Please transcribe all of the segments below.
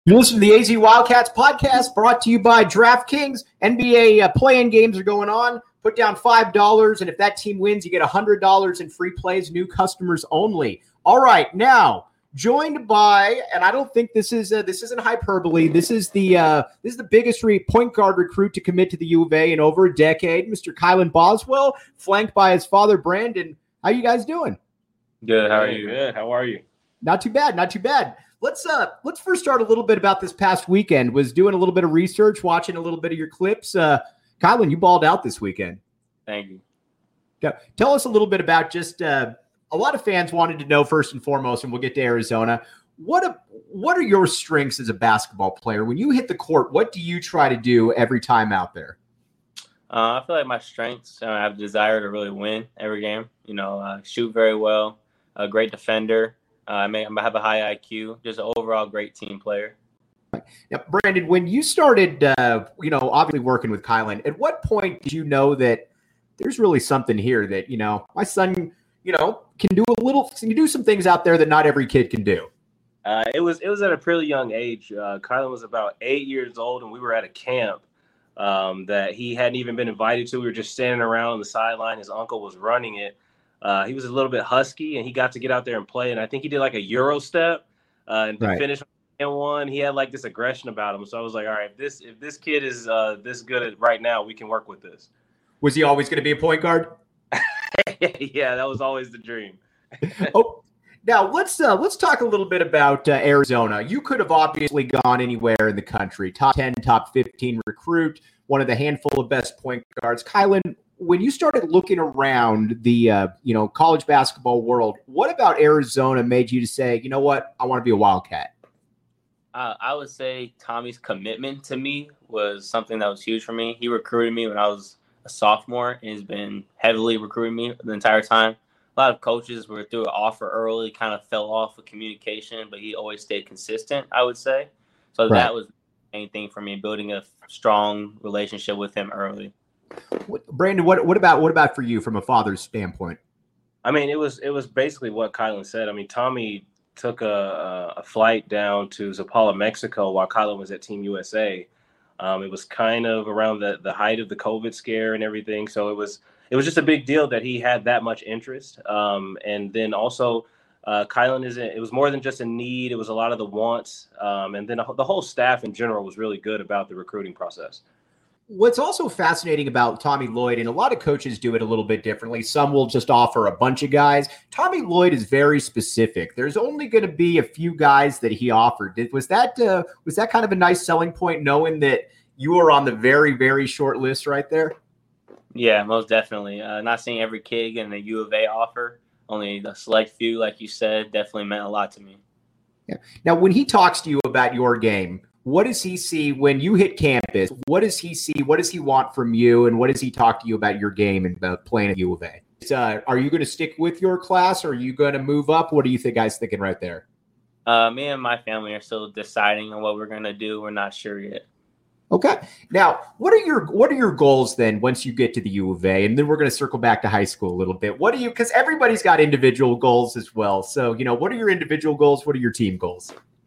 You listen to the AZ Wildcats podcast brought to you by DraftKings. NBA play-in games are going on. Put down $5, and if that team wins, you get $100 in free plays, new customers only. All right, now joined by, and I don't think this isn't hyperbole. This is the biggest point guard recruit to commit to the U of A in over a decade, Mr. Kylan Boswell, flanked by his father Brandon. How you guys doing? Good. How are you? Good. How are you? Not too bad. Not too bad. Let's first start a little bit about this past weekend. Was doing a little bit of research, watching a little bit of your clips. Kylan, you balled out this weekend. Thank you. Tell us a little bit about just a lot of fans wanted to know first and foremost, and we'll get to Arizona. What are your strengths as a basketball player? When you hit the court, what do you try to do every time out there? I feel like my strengths, I have a desire to really win every game. Shoot very well, a great defender. I have a high IQ, just an overall great team player. Now, Brandon, when you started, obviously working with Kylan, at what point did you know that there's really something here that, my son, can do some things out there that not every kid can do? It was at a pretty young age. Kylan was about 8 years old, and we were at a camp that he hadn't even been invited to. We were just standing around on the sideline. His uncle was running it. He was a little bit husky, and he got to get out there and play. And I think he did like a Euro step and to finish in one. He had like this aggression about him. So I was like, all right, if this kid is this good at right now, we can work with this. Was he always going to be a point guard? Yeah, that was always the dream. Now let's talk a little bit about Arizona. You could have obviously gone anywhere in the country. Top 10, top 15 recruit, one of the handful of best point guards. Kylan, when you started looking around the college basketball world, what about Arizona made you to say, you know what, I want to be a Wildcat? I would say Tommy's commitment to me was something that was huge for me. He recruited me when I was a sophomore, and he's been heavily recruiting me the entire time. A lot of coaches were through an offer early, kind of fell off with communication, but he always stayed consistent, I would say. So That was the main thing for me, building a strong relationship with him early. Brandon, what about for you from a father's standpoint? I mean, it was basically what Kylan said. I mean, Tommy took a flight down to Zapala, Mexico, while Kylan was at Team USA. It was kind of around the height of the COVID scare and everything, so it was just a big deal that he had that much interest. And then also, Kylan it was more than just a need; it was a lot of the wants. And then the whole staff in general was really good about the recruiting process. What's also fascinating about Tommy Lloyd, and a lot of coaches do it a little bit differently. Some will just offer a bunch of guys. Tommy Lloyd is very specific. There's only going to be a few guys that he offered. Was that kind of a nice selling point, knowing that you were on the very, very short list right there? Yeah, most definitely. Not seeing every kid getting a U of A offer, only the select few, like you said, definitely meant a lot to me. Yeah. Now, when he talks to you about your game, what does he see when you hit campus? What does he see? What does he want from you? And what does he talk to you about your game and about playing at U of A? Are you going to stick with your class, or are you going to move up? What do you guys thinking right there? Me and my family are still deciding on what we're going to do. We're not sure yet. Okay. Now, what are your goals then once you get to the U of A? And then we're going to circle back to high school a little bit. Because everybody's got individual goals as well. So, what are your individual goals? What are your team goals?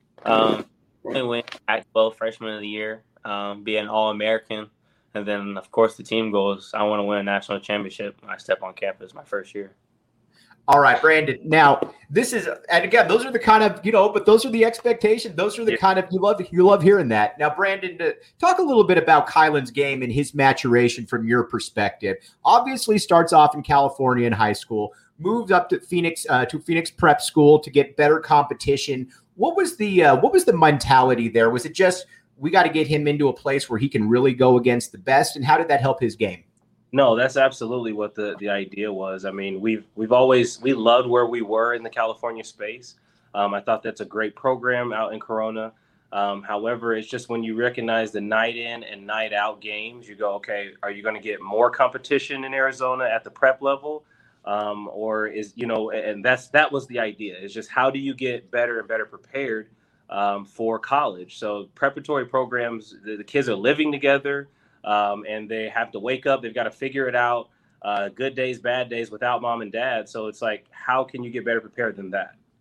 Win Pac-12 freshman of the year, be an All-American, and then of course the team goals. I want to win a national championship when I step on campus my first year. All right, Brandon. Now this is, and again, those are the kind of but those are the expectations. Those are the kind of you love hearing that. Now, Brandon, talk a little bit about Kylan's game and his maturation from your perspective. Obviously, starts off in California in high school, moved up to Phoenix Prep School to get better competition. What was the mentality there? Was it just we got to get him into a place where he can really go against the best? And how did that help his game? No, that's absolutely what the idea was. I mean, we loved where we were in the California space. I thought that's a great program out in Corona. However, it's just when you recognize the night in and night out games, you go, okay, are you going to get more competition in Arizona at the prep level? Or is, and that was the idea. It's just how do you get better and better prepared for college? So preparatory programs, the kids are living together and they have to wake up. They've got to figure it out. Good days, bad days without mom and dad. So it's like, how can you get better prepared than that?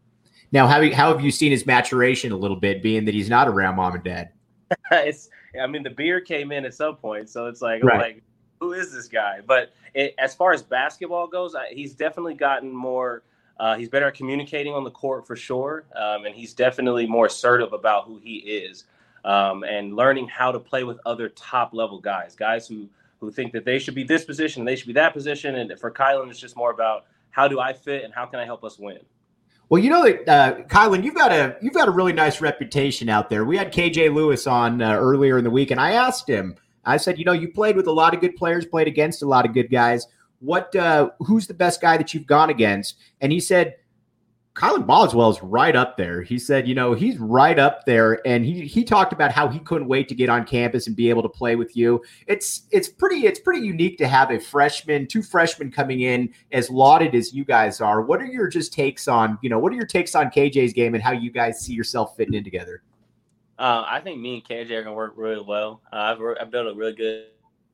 Now, how have you seen his maturation a little bit, being that he's not around mom and dad? I mean, the beard came in at some point, so it's like, Right. I'm like, who is this guy? But as far as basketball goes, he's definitely gotten more. He's better at communicating on the court for sure, and he's definitely more assertive about who he is, and learning how to play with other top level guys who think that they should be this position and they should be that position. And for Kylan, it's just more about how do I fit and how can I help us win. Well, you know that Kylan, you've got a really nice reputation out there. We had KJ Lewis on earlier in the week, and I asked him. I said, you played with a lot of good players, played against a lot of good guys. Who's the best guy that you've gone against? And he said, Kylan Boswell is right up there. He said, he's right up there. And he talked about how he couldn't wait to get on campus and be able to play with you. It's pretty unique to have two freshmen coming in as lauded as you guys are. What are your takes on KJ's game and how you guys see yourself fitting in together? I think me and KJ are gonna work really well. I've built a really good.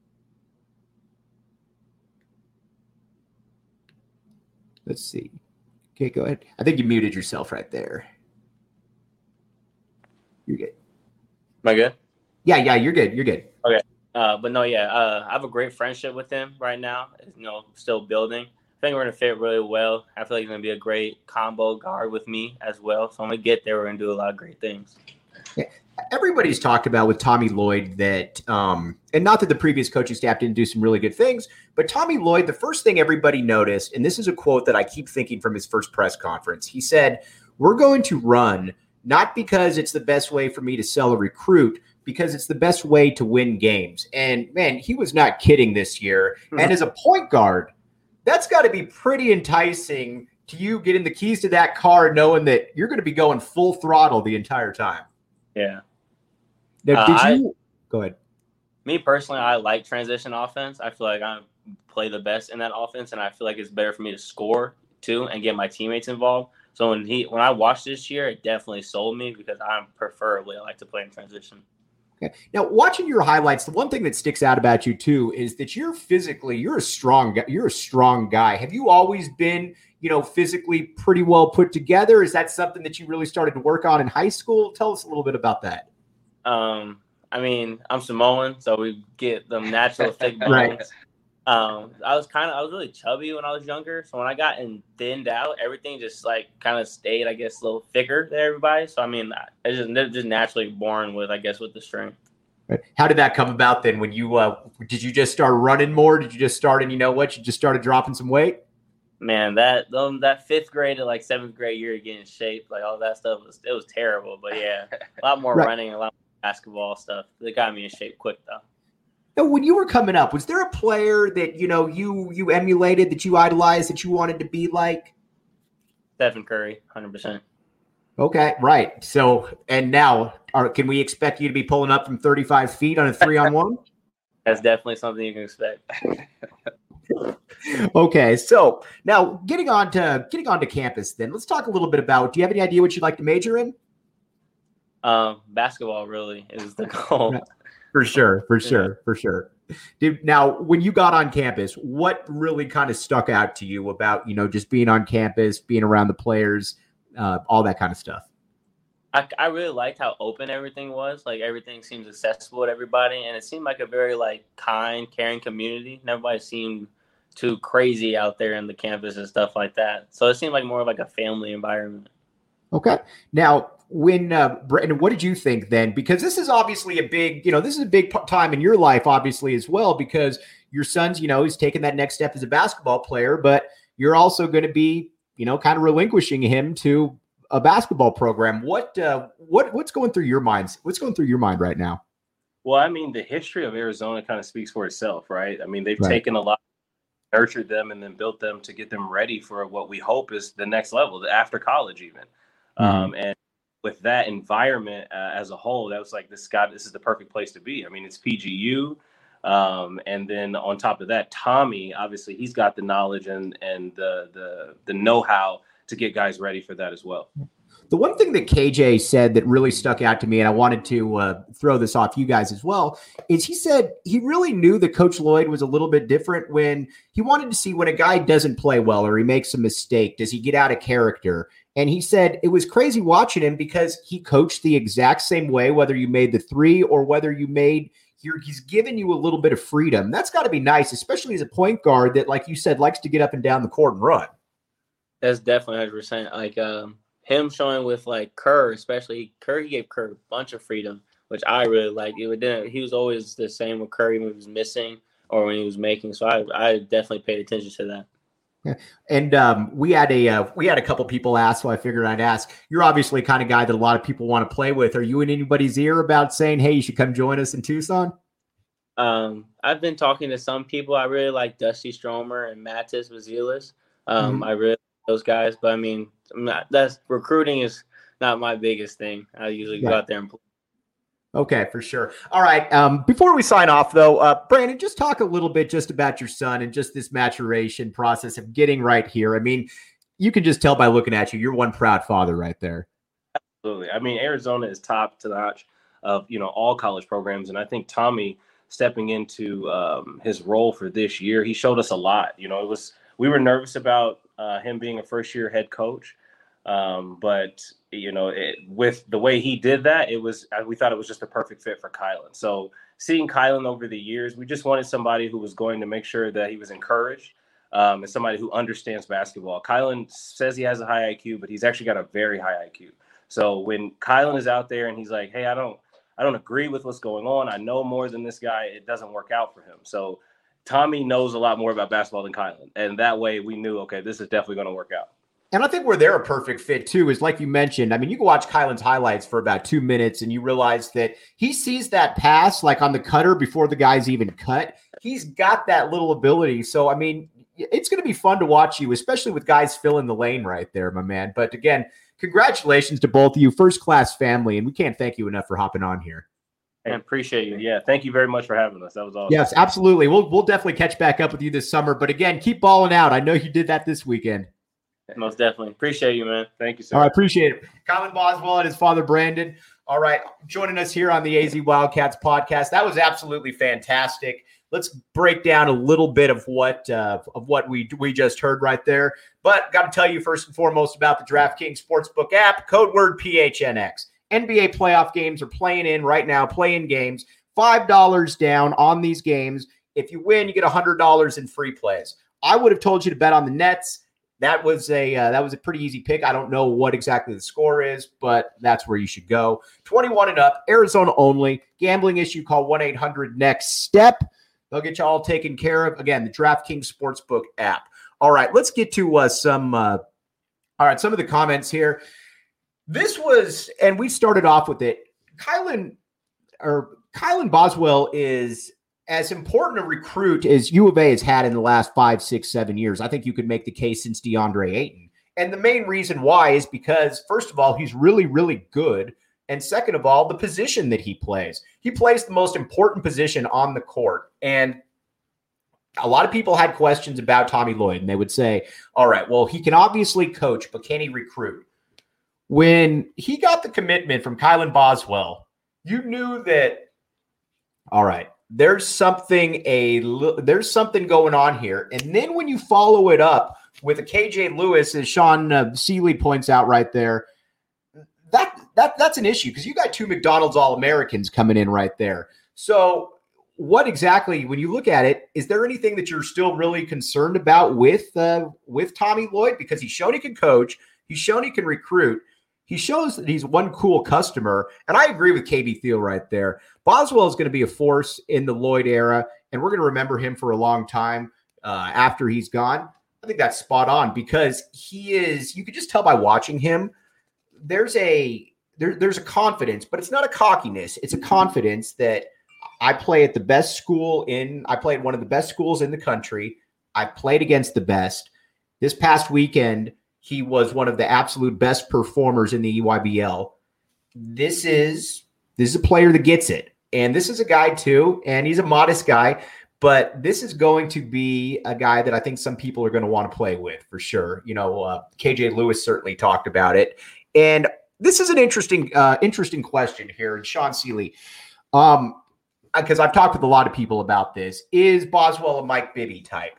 Let's see. Okay, go ahead. I think you muted yourself right there. You're good. Am I good? Yeah, you're good. You're good. Okay. But no, I have a great friendship with him right now. Still building. I think we're gonna fit really well. I feel like he's gonna be a great combo guard with me as well. So when we get there, we're gonna do a lot of great things. Yeah. Everybody's talked about with Tommy Lloyd that, and not that the previous coaching staff didn't do some really good things, but Tommy Lloyd, the first thing everybody noticed, and this is a quote that I keep thinking from his first press conference, he said, "We're going to run, not because it's the best way for me to sell a recruit, because it's the best way to win games." And man, he was not kidding this year. Mm-hmm. And as a point guard, that's got to be pretty enticing to you getting the keys to that car, knowing that you're going to be going full throttle the entire time. Yeah. Now, go ahead? Me personally, I like transition offense. I feel like I play the best in that offense, and I feel like it's better for me to score too and get my teammates involved. So when I watched this year, it definitely sold me because I like to play in transition. Okay. Now, watching your highlights, the one thing that sticks out about you too is that you're a strong guy. Have you always been, physically pretty well put together? Is that something that you really started to work on in high school? Tell us a little bit about that. I mean, I'm Samoan, so we get them natural thick bones. Right. I was really chubby when I was younger. So when I got thinned out, everything just kind of stayed, I guess, a little thicker than everybody. So I mean, they're just naturally born with the strength. Right. How did that come about then? When you did you just start running more? Did you just start and you just started dropping some weight? Man, that 5th grade to 7th grade year to get in shape, all that stuff it was terrible. But yeah, a lot more running, a lot more basketball stuff. They got me in shape quick though. Now, when you were coming up, was there a player that you emulated, that you idolized, that you wanted to be like? Stephen Curry, 100%. Okay, right. So, and now, can we expect you to be pulling up from 35 feet on a 3-on-1? That's definitely something you can expect. Okay, so now getting on to campus, then let's talk a little bit about. Do you have any idea what you'd like to major in? Basketball really is the goal. For sure. Dude, now, when you got on campus, what really kind of stuck out to you about, just being on campus, being around the players, all that kind of stuff? I really liked how open everything was. Everything seems accessible to everybody, and it seemed like a very kind, caring community. And everybody seemed too crazy out there in the campus and stuff like that. So it seemed like more of a family environment. Okay. Now, when Brandon, what did you think then? Because this is obviously a big time in your life, obviously, as well, because your son's, he's taking that next step as a basketball player, but you're also going to be, kind of relinquishing him to a basketball program. What's going through your minds? What's going through your mind right now? Well, I mean, the history of Arizona kind of speaks for itself, right? I mean, they've taken a lot, nurtured them, and then built them to get them ready for what we hope is the next level, after college even. Mm-hmm. And with that environment as a whole, that was this is the perfect place to be. I mean, it's PGU. And then on top of that, Tommy, obviously he's got the knowledge and the know-how to get guys ready for that as well. The one thing that KJ said that really stuck out to me, and I wanted to throw this off you guys as well, is he said he really knew that Coach Lloyd was a little bit different when he wanted to see when a guy doesn't play well or he makes a mistake, does he get out of character? And he said it was crazy watching him because he coached the exact same way, whether you made the three or whether you made he's given you a little bit of freedom. That's got to be nice, especially as a point guard that, like you said, likes to get up and down the court and run. That's definitely 100%. Like him showing with like Kerr, especially Kerr, he gave Kerr a bunch of freedom, which I really liked. He was always the same with Curry when he was missing or when he was making. So I definitely paid attention to that. Yeah. And we had a couple people ask, so I figured I'd ask. You're obviously the kind of guy that a lot of people want to play with. Are you in anybody's ear about saying, hey, you should come join us in Tucson? I've been talking to some people. I really like Dusty Stromer and Matis Vazilis. I really like those guys, but I mean, recruiting is not my biggest thing. I usually go out there and play. Okay, for sure. All right. Before we sign off, though, Brandon, just talk a little bit just about your son and just this maturation process of getting right here. I mean, you can just tell by looking at you, you're one proud father right there. Absolutely. I mean, Arizona is top to notch of, all college programs. And I think Tommy stepping into his role for this year, he showed us a lot. We were nervous about him being a first-year head coach. But with the way he did that, we thought it was just a perfect fit for Kylan. So seeing Kylan over the years, we just wanted somebody who was going to make sure that he was encouraged, and somebody who understands basketball. Kylan says he has a high IQ, but he's actually got a very high IQ. So when Kylan is out there and he's like, hey, I don't agree with what's going on, I know more than this guy, it doesn't work out for him. So Tommy knows a lot more about basketball than Kylan. And that way we knew, okay, this is definitely going to work out. And I think where they're a perfect fit, too, is like you mentioned. I mean, you can watch Kylan's highlights for about 2 minutes and you realize that he sees that pass like on the cutter before the guy's even cut. He's got that little ability. So, I mean, it's going to be fun to watch you, especially with guys filling the lane right there, my man. But again, congratulations to both of you. First-class family. And we can't thank you enough for hopping on here. I appreciate you. Yeah, thank you very much for having us. That was awesome. Yes, absolutely. We'll definitely catch back up with you this summer. But again, keep balling out. I know you did that this weekend. Most definitely. Appreciate you, man. Thank you, sir. All right, appreciate it. Kylan Boswell and his father, Brandon. All right, joining us here on the AZ Wildcats podcast. That was absolutely fantastic. Let's break down a little bit of what we just heard right there. But got to tell you first and foremost about the DraftKings Sportsbook app, code word PHNX. NBA playoff games are playing in right now, play-in games. $5 down on these games. If you win, you get $100 in free plays. I would have told you to bet on the Nets. That was a pretty easy pick. I don't know what exactly the score is, but that's where you should go. 21 and up, Arizona only. Gambling issue, call 1-800-NEXT-STEP. They'll get you all taken care of. Again, the DraftKings Sportsbook app. All right, let's get to some of the comments here. This was, and we started off with it, Kylan Boswell is as important a recruit as U of A has had in the last 5, 6, 7 years. I think you could make the case since DeAndre Ayton. And the main reason why is because, first of all, he's really, really good. And second of all, the position that he plays. He plays the most important position on the court. And a lot of people had questions about Tommy Lloyd, and they would say, all right, well, he can obviously coach, but can he recruit? When he got the commitment from Kylan Boswell, you knew that, all right, there's something going on here. And then when you follow it up with a KJ Lewis, as Sean Seeley points out right there, that's an issue because you got 2 McDonald's All-Americans coming in right there. So what exactly, when you look at it, is there anything that you're still really concerned about with Tommy Lloyd? Because he's shown he can coach. He's shown he can recruit. He shows that he's one cool customer. And I agree with KB Thiel right there. Boswell is going to be a force in the Lloyd era, and we're going to remember him for a long time after he's gone. I think that's spot on because he is, you could just tell by watching him, there's a confidence, but it's not a cockiness. It's a confidence that I play at the best school I play at one of the best schools in the country. I played against the best. This past weekend, he was one of the absolute best performers in the EYBL. This is a player that gets it. And this is a guy too, and he's a modest guy, but this is going to be a guy that I think some people are going to want to play with for sure. KJ Lewis certainly talked about it. And this is an interesting question here. And Sean Seeley, because I've talked with a lot of people about this, is Boswell a Mike Bibby type?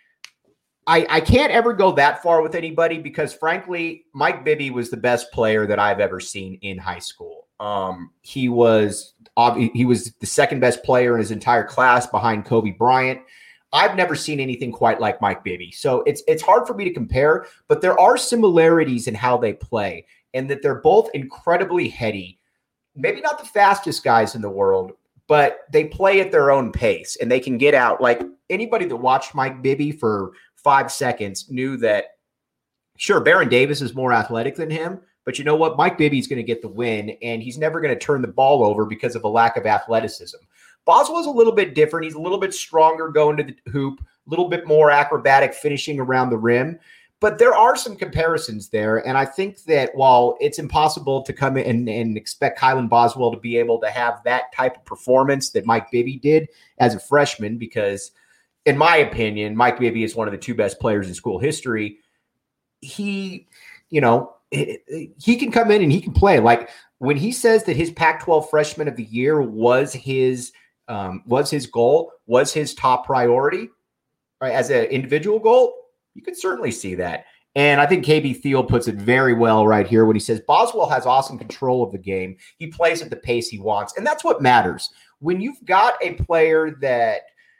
I can't ever go that far with anybody because, frankly, Mike Bibby was the best player that I've ever seen in high school. He was the second best player in his entire class behind Kobe Bryant. I've never seen anything quite like Mike Bibby. So it's hard for me to compare, but there are similarities in how they play and that they're both incredibly heady. Maybe not the fastest guys in the world, but they play at their own pace and they can get out. Like anybody that watched Mike Bibby for 5 seconds knew that, sure, Baron Davis is more athletic than him, but you know what? Mike Bibby's going to get the win, and he's never going to turn the ball over because of a lack of athleticism. Boswell's a little bit different. He's a little bit stronger going to the hoop, a little bit more acrobatic finishing around the rim. But there are some comparisons there, and I think that while it's impossible to come in and expect Kylan Boswell to be able to have that type of performance that Mike Bibby did as a freshman, because in my opinion, Mike Bibby is one of the two best players in school history. He can come in and he can play. Like when he says that his Pac-12 freshman of the year was his goal, was his top priority, right, as an individual goal, you can certainly see that. And I think KB Thiel puts it very well right here when he says Boswell has awesome control of the game. He plays at the pace he wants. And that's what matters. When you've got a player that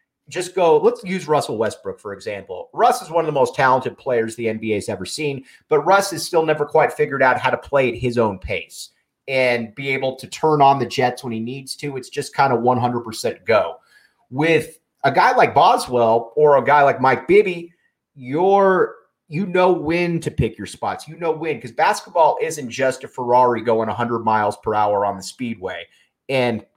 let's use Russell Westbrook, for example. Russ is one of the most talented players the NBA's ever seen, but Russ has still never quite figured out how to play at his own pace and be able to turn on the jets when he needs to. It's just kind of 100% go. With a guy like Boswell or a guy like Mike Bibby, you know when to pick your spots. You know when, because basketball isn't just a Ferrari going 100 miles per hour on the speedway. And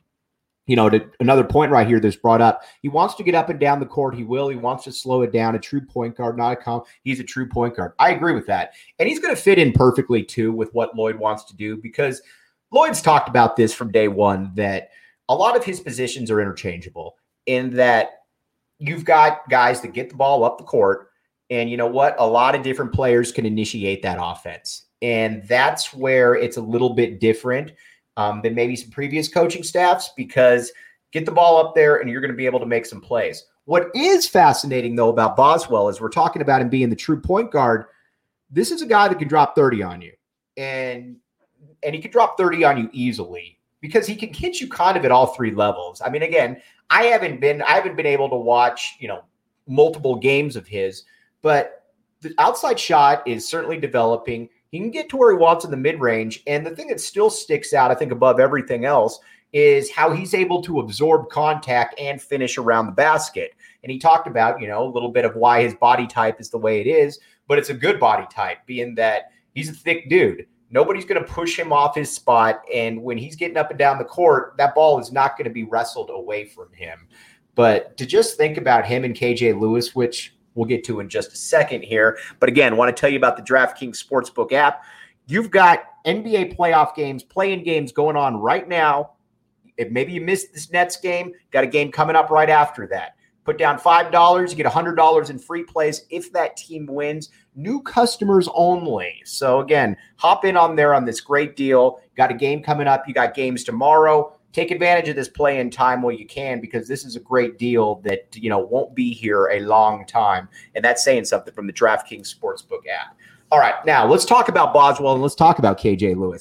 another point right here that's brought up, he wants to get up and down the court. He will. He wants to slow it down. A true point guard, he's a true point guard. I agree with that. And he's going to fit in perfectly, too, with what Lloyd wants to do, because Lloyd's talked about this from day one, that a lot of his positions are interchangeable in that you've got guys that get the ball up the court, and you know what? A lot of different players can initiate that offense. And that's where it's a little bit different than maybe some previous coaching staffs, because get the ball up there and you're going to be able to make some plays. What is fascinating, though, about Boswell is we're talking about him being the true point guard. This is a guy that can drop 30 on you. And he can drop 30 on you easily because he can hit you kind of at all three levels. I mean, again, I haven't been able to watch, multiple games of his, but the outside shot is certainly developing. He can get to where he wants in the mid-range. And the thing that still sticks out, I think, above everything else is how he's able to absorb contact and finish around the basket. And he talked about, a little bit of why his body type is the way it is, but it's a good body type, being that he's a thick dude. Nobody's going to push him off his spot. And when he's getting up and down the court, that ball is not going to be wrestled away from him. But to just think about him and KJ Lewis, which we'll get to in just a second here. But again, want to tell you about the DraftKings Sportsbook app. You've got NBA playoff games, play-in games going on right now. If maybe you missed this Nets game, got a game coming up right after that. Put down $5, you get $100 in free plays if that team wins. New customers only. So again, hop in on there on this great deal. Got a game coming up. You got games tomorrow. Take advantage of this play-in time while you can, because this is a great deal that, won't be here a long time. And that's saying something from the DraftKings Sportsbook app. All right, now let's talk about Boswell and let's talk about KJ Lewis.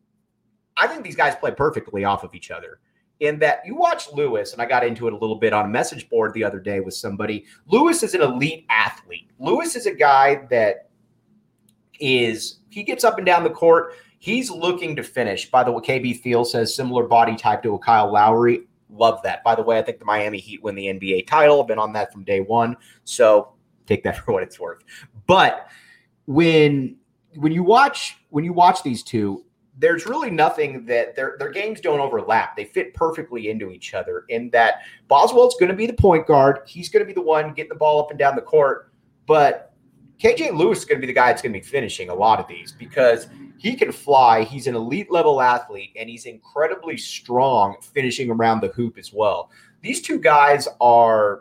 I think these guys play perfectly off of each other in that you watch Lewis, and I got into it a little bit on a message board the other day with somebody. Lewis is an elite athlete. Lewis is a guy that he gets up and down the court. He's looking to finish. By the way, KB Thiel says similar body type to a Kyle Lowry. Love that. By the way, I think the Miami Heat win the NBA title. I've been on that from day one. So take that for what it's worth. But when you watch these two, there's really nothing that their games don't overlap. They fit perfectly into each other in that Boswell's going to be the point guard. He's going to be the one getting the ball up and down the court. But KJ Lewis is going to be the guy that's going to be finishing a lot of these because he can fly. He's an elite level athlete, and he's incredibly strong finishing around the hoop as well. These two guys are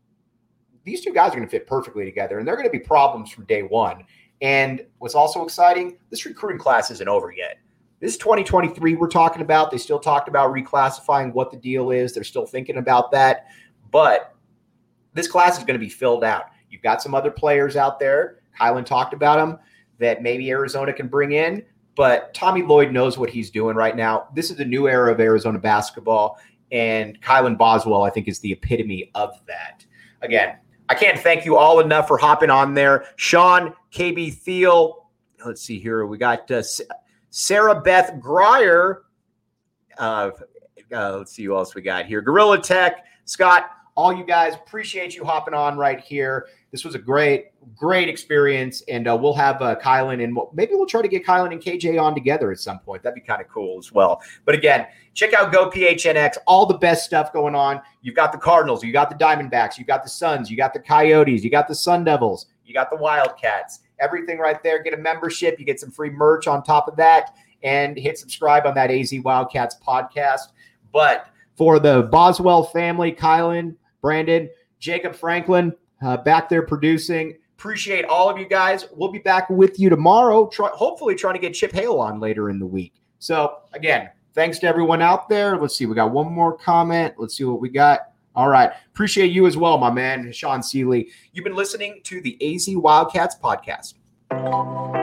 going to fit perfectly together, and they're going to be problems from day one. And what's also exciting, this recruiting class isn't over yet. This is 2023 we're talking about. They still talked about reclassifying what the deal is. They're still thinking about that. But this class is going to be filled out. You've got some other players out there. Kylan talked about them that maybe Arizona can bring in. But Tommy Lloyd knows what he's doing right now. This is a new era of Arizona basketball. And Kylan Boswell, I think, is the epitome of that. Again, I can't thank you all enough for hopping on there. Sean, KB Thiel. Let's see here. We got Sarah Beth Grier. Let's see who else we got here. Gorilla Tech. Scott, all you guys, appreciate you hopping on right here. This was a great experience, and we'll have Kylan, and maybe we'll try to get Kylan and KJ on together at some point. That'd be kind of cool as well. But again, check out GoPHNX, all the best stuff going on. You've got the Cardinals, you got the Diamondbacks, you got the Suns, you got the Coyotes, you got the Sun Devils, you got the Wildcats. Everything right there. Get a membership. You get some free merch on top of that, and hit subscribe on that AZ Wildcats podcast. But for the Boswell family, Kylan, Brandon, Jacob Franklin, back there producing. Appreciate all of you guys. We'll be back with you tomorrow, hopefully trying to get Chip Hale on later in the week. So, again, thanks to everyone out there. Let's see. We got one more comment. Let's see what we got. All right. Appreciate you as well, my man, Sean Seeley. You've been listening to the AZ Wildcats podcast.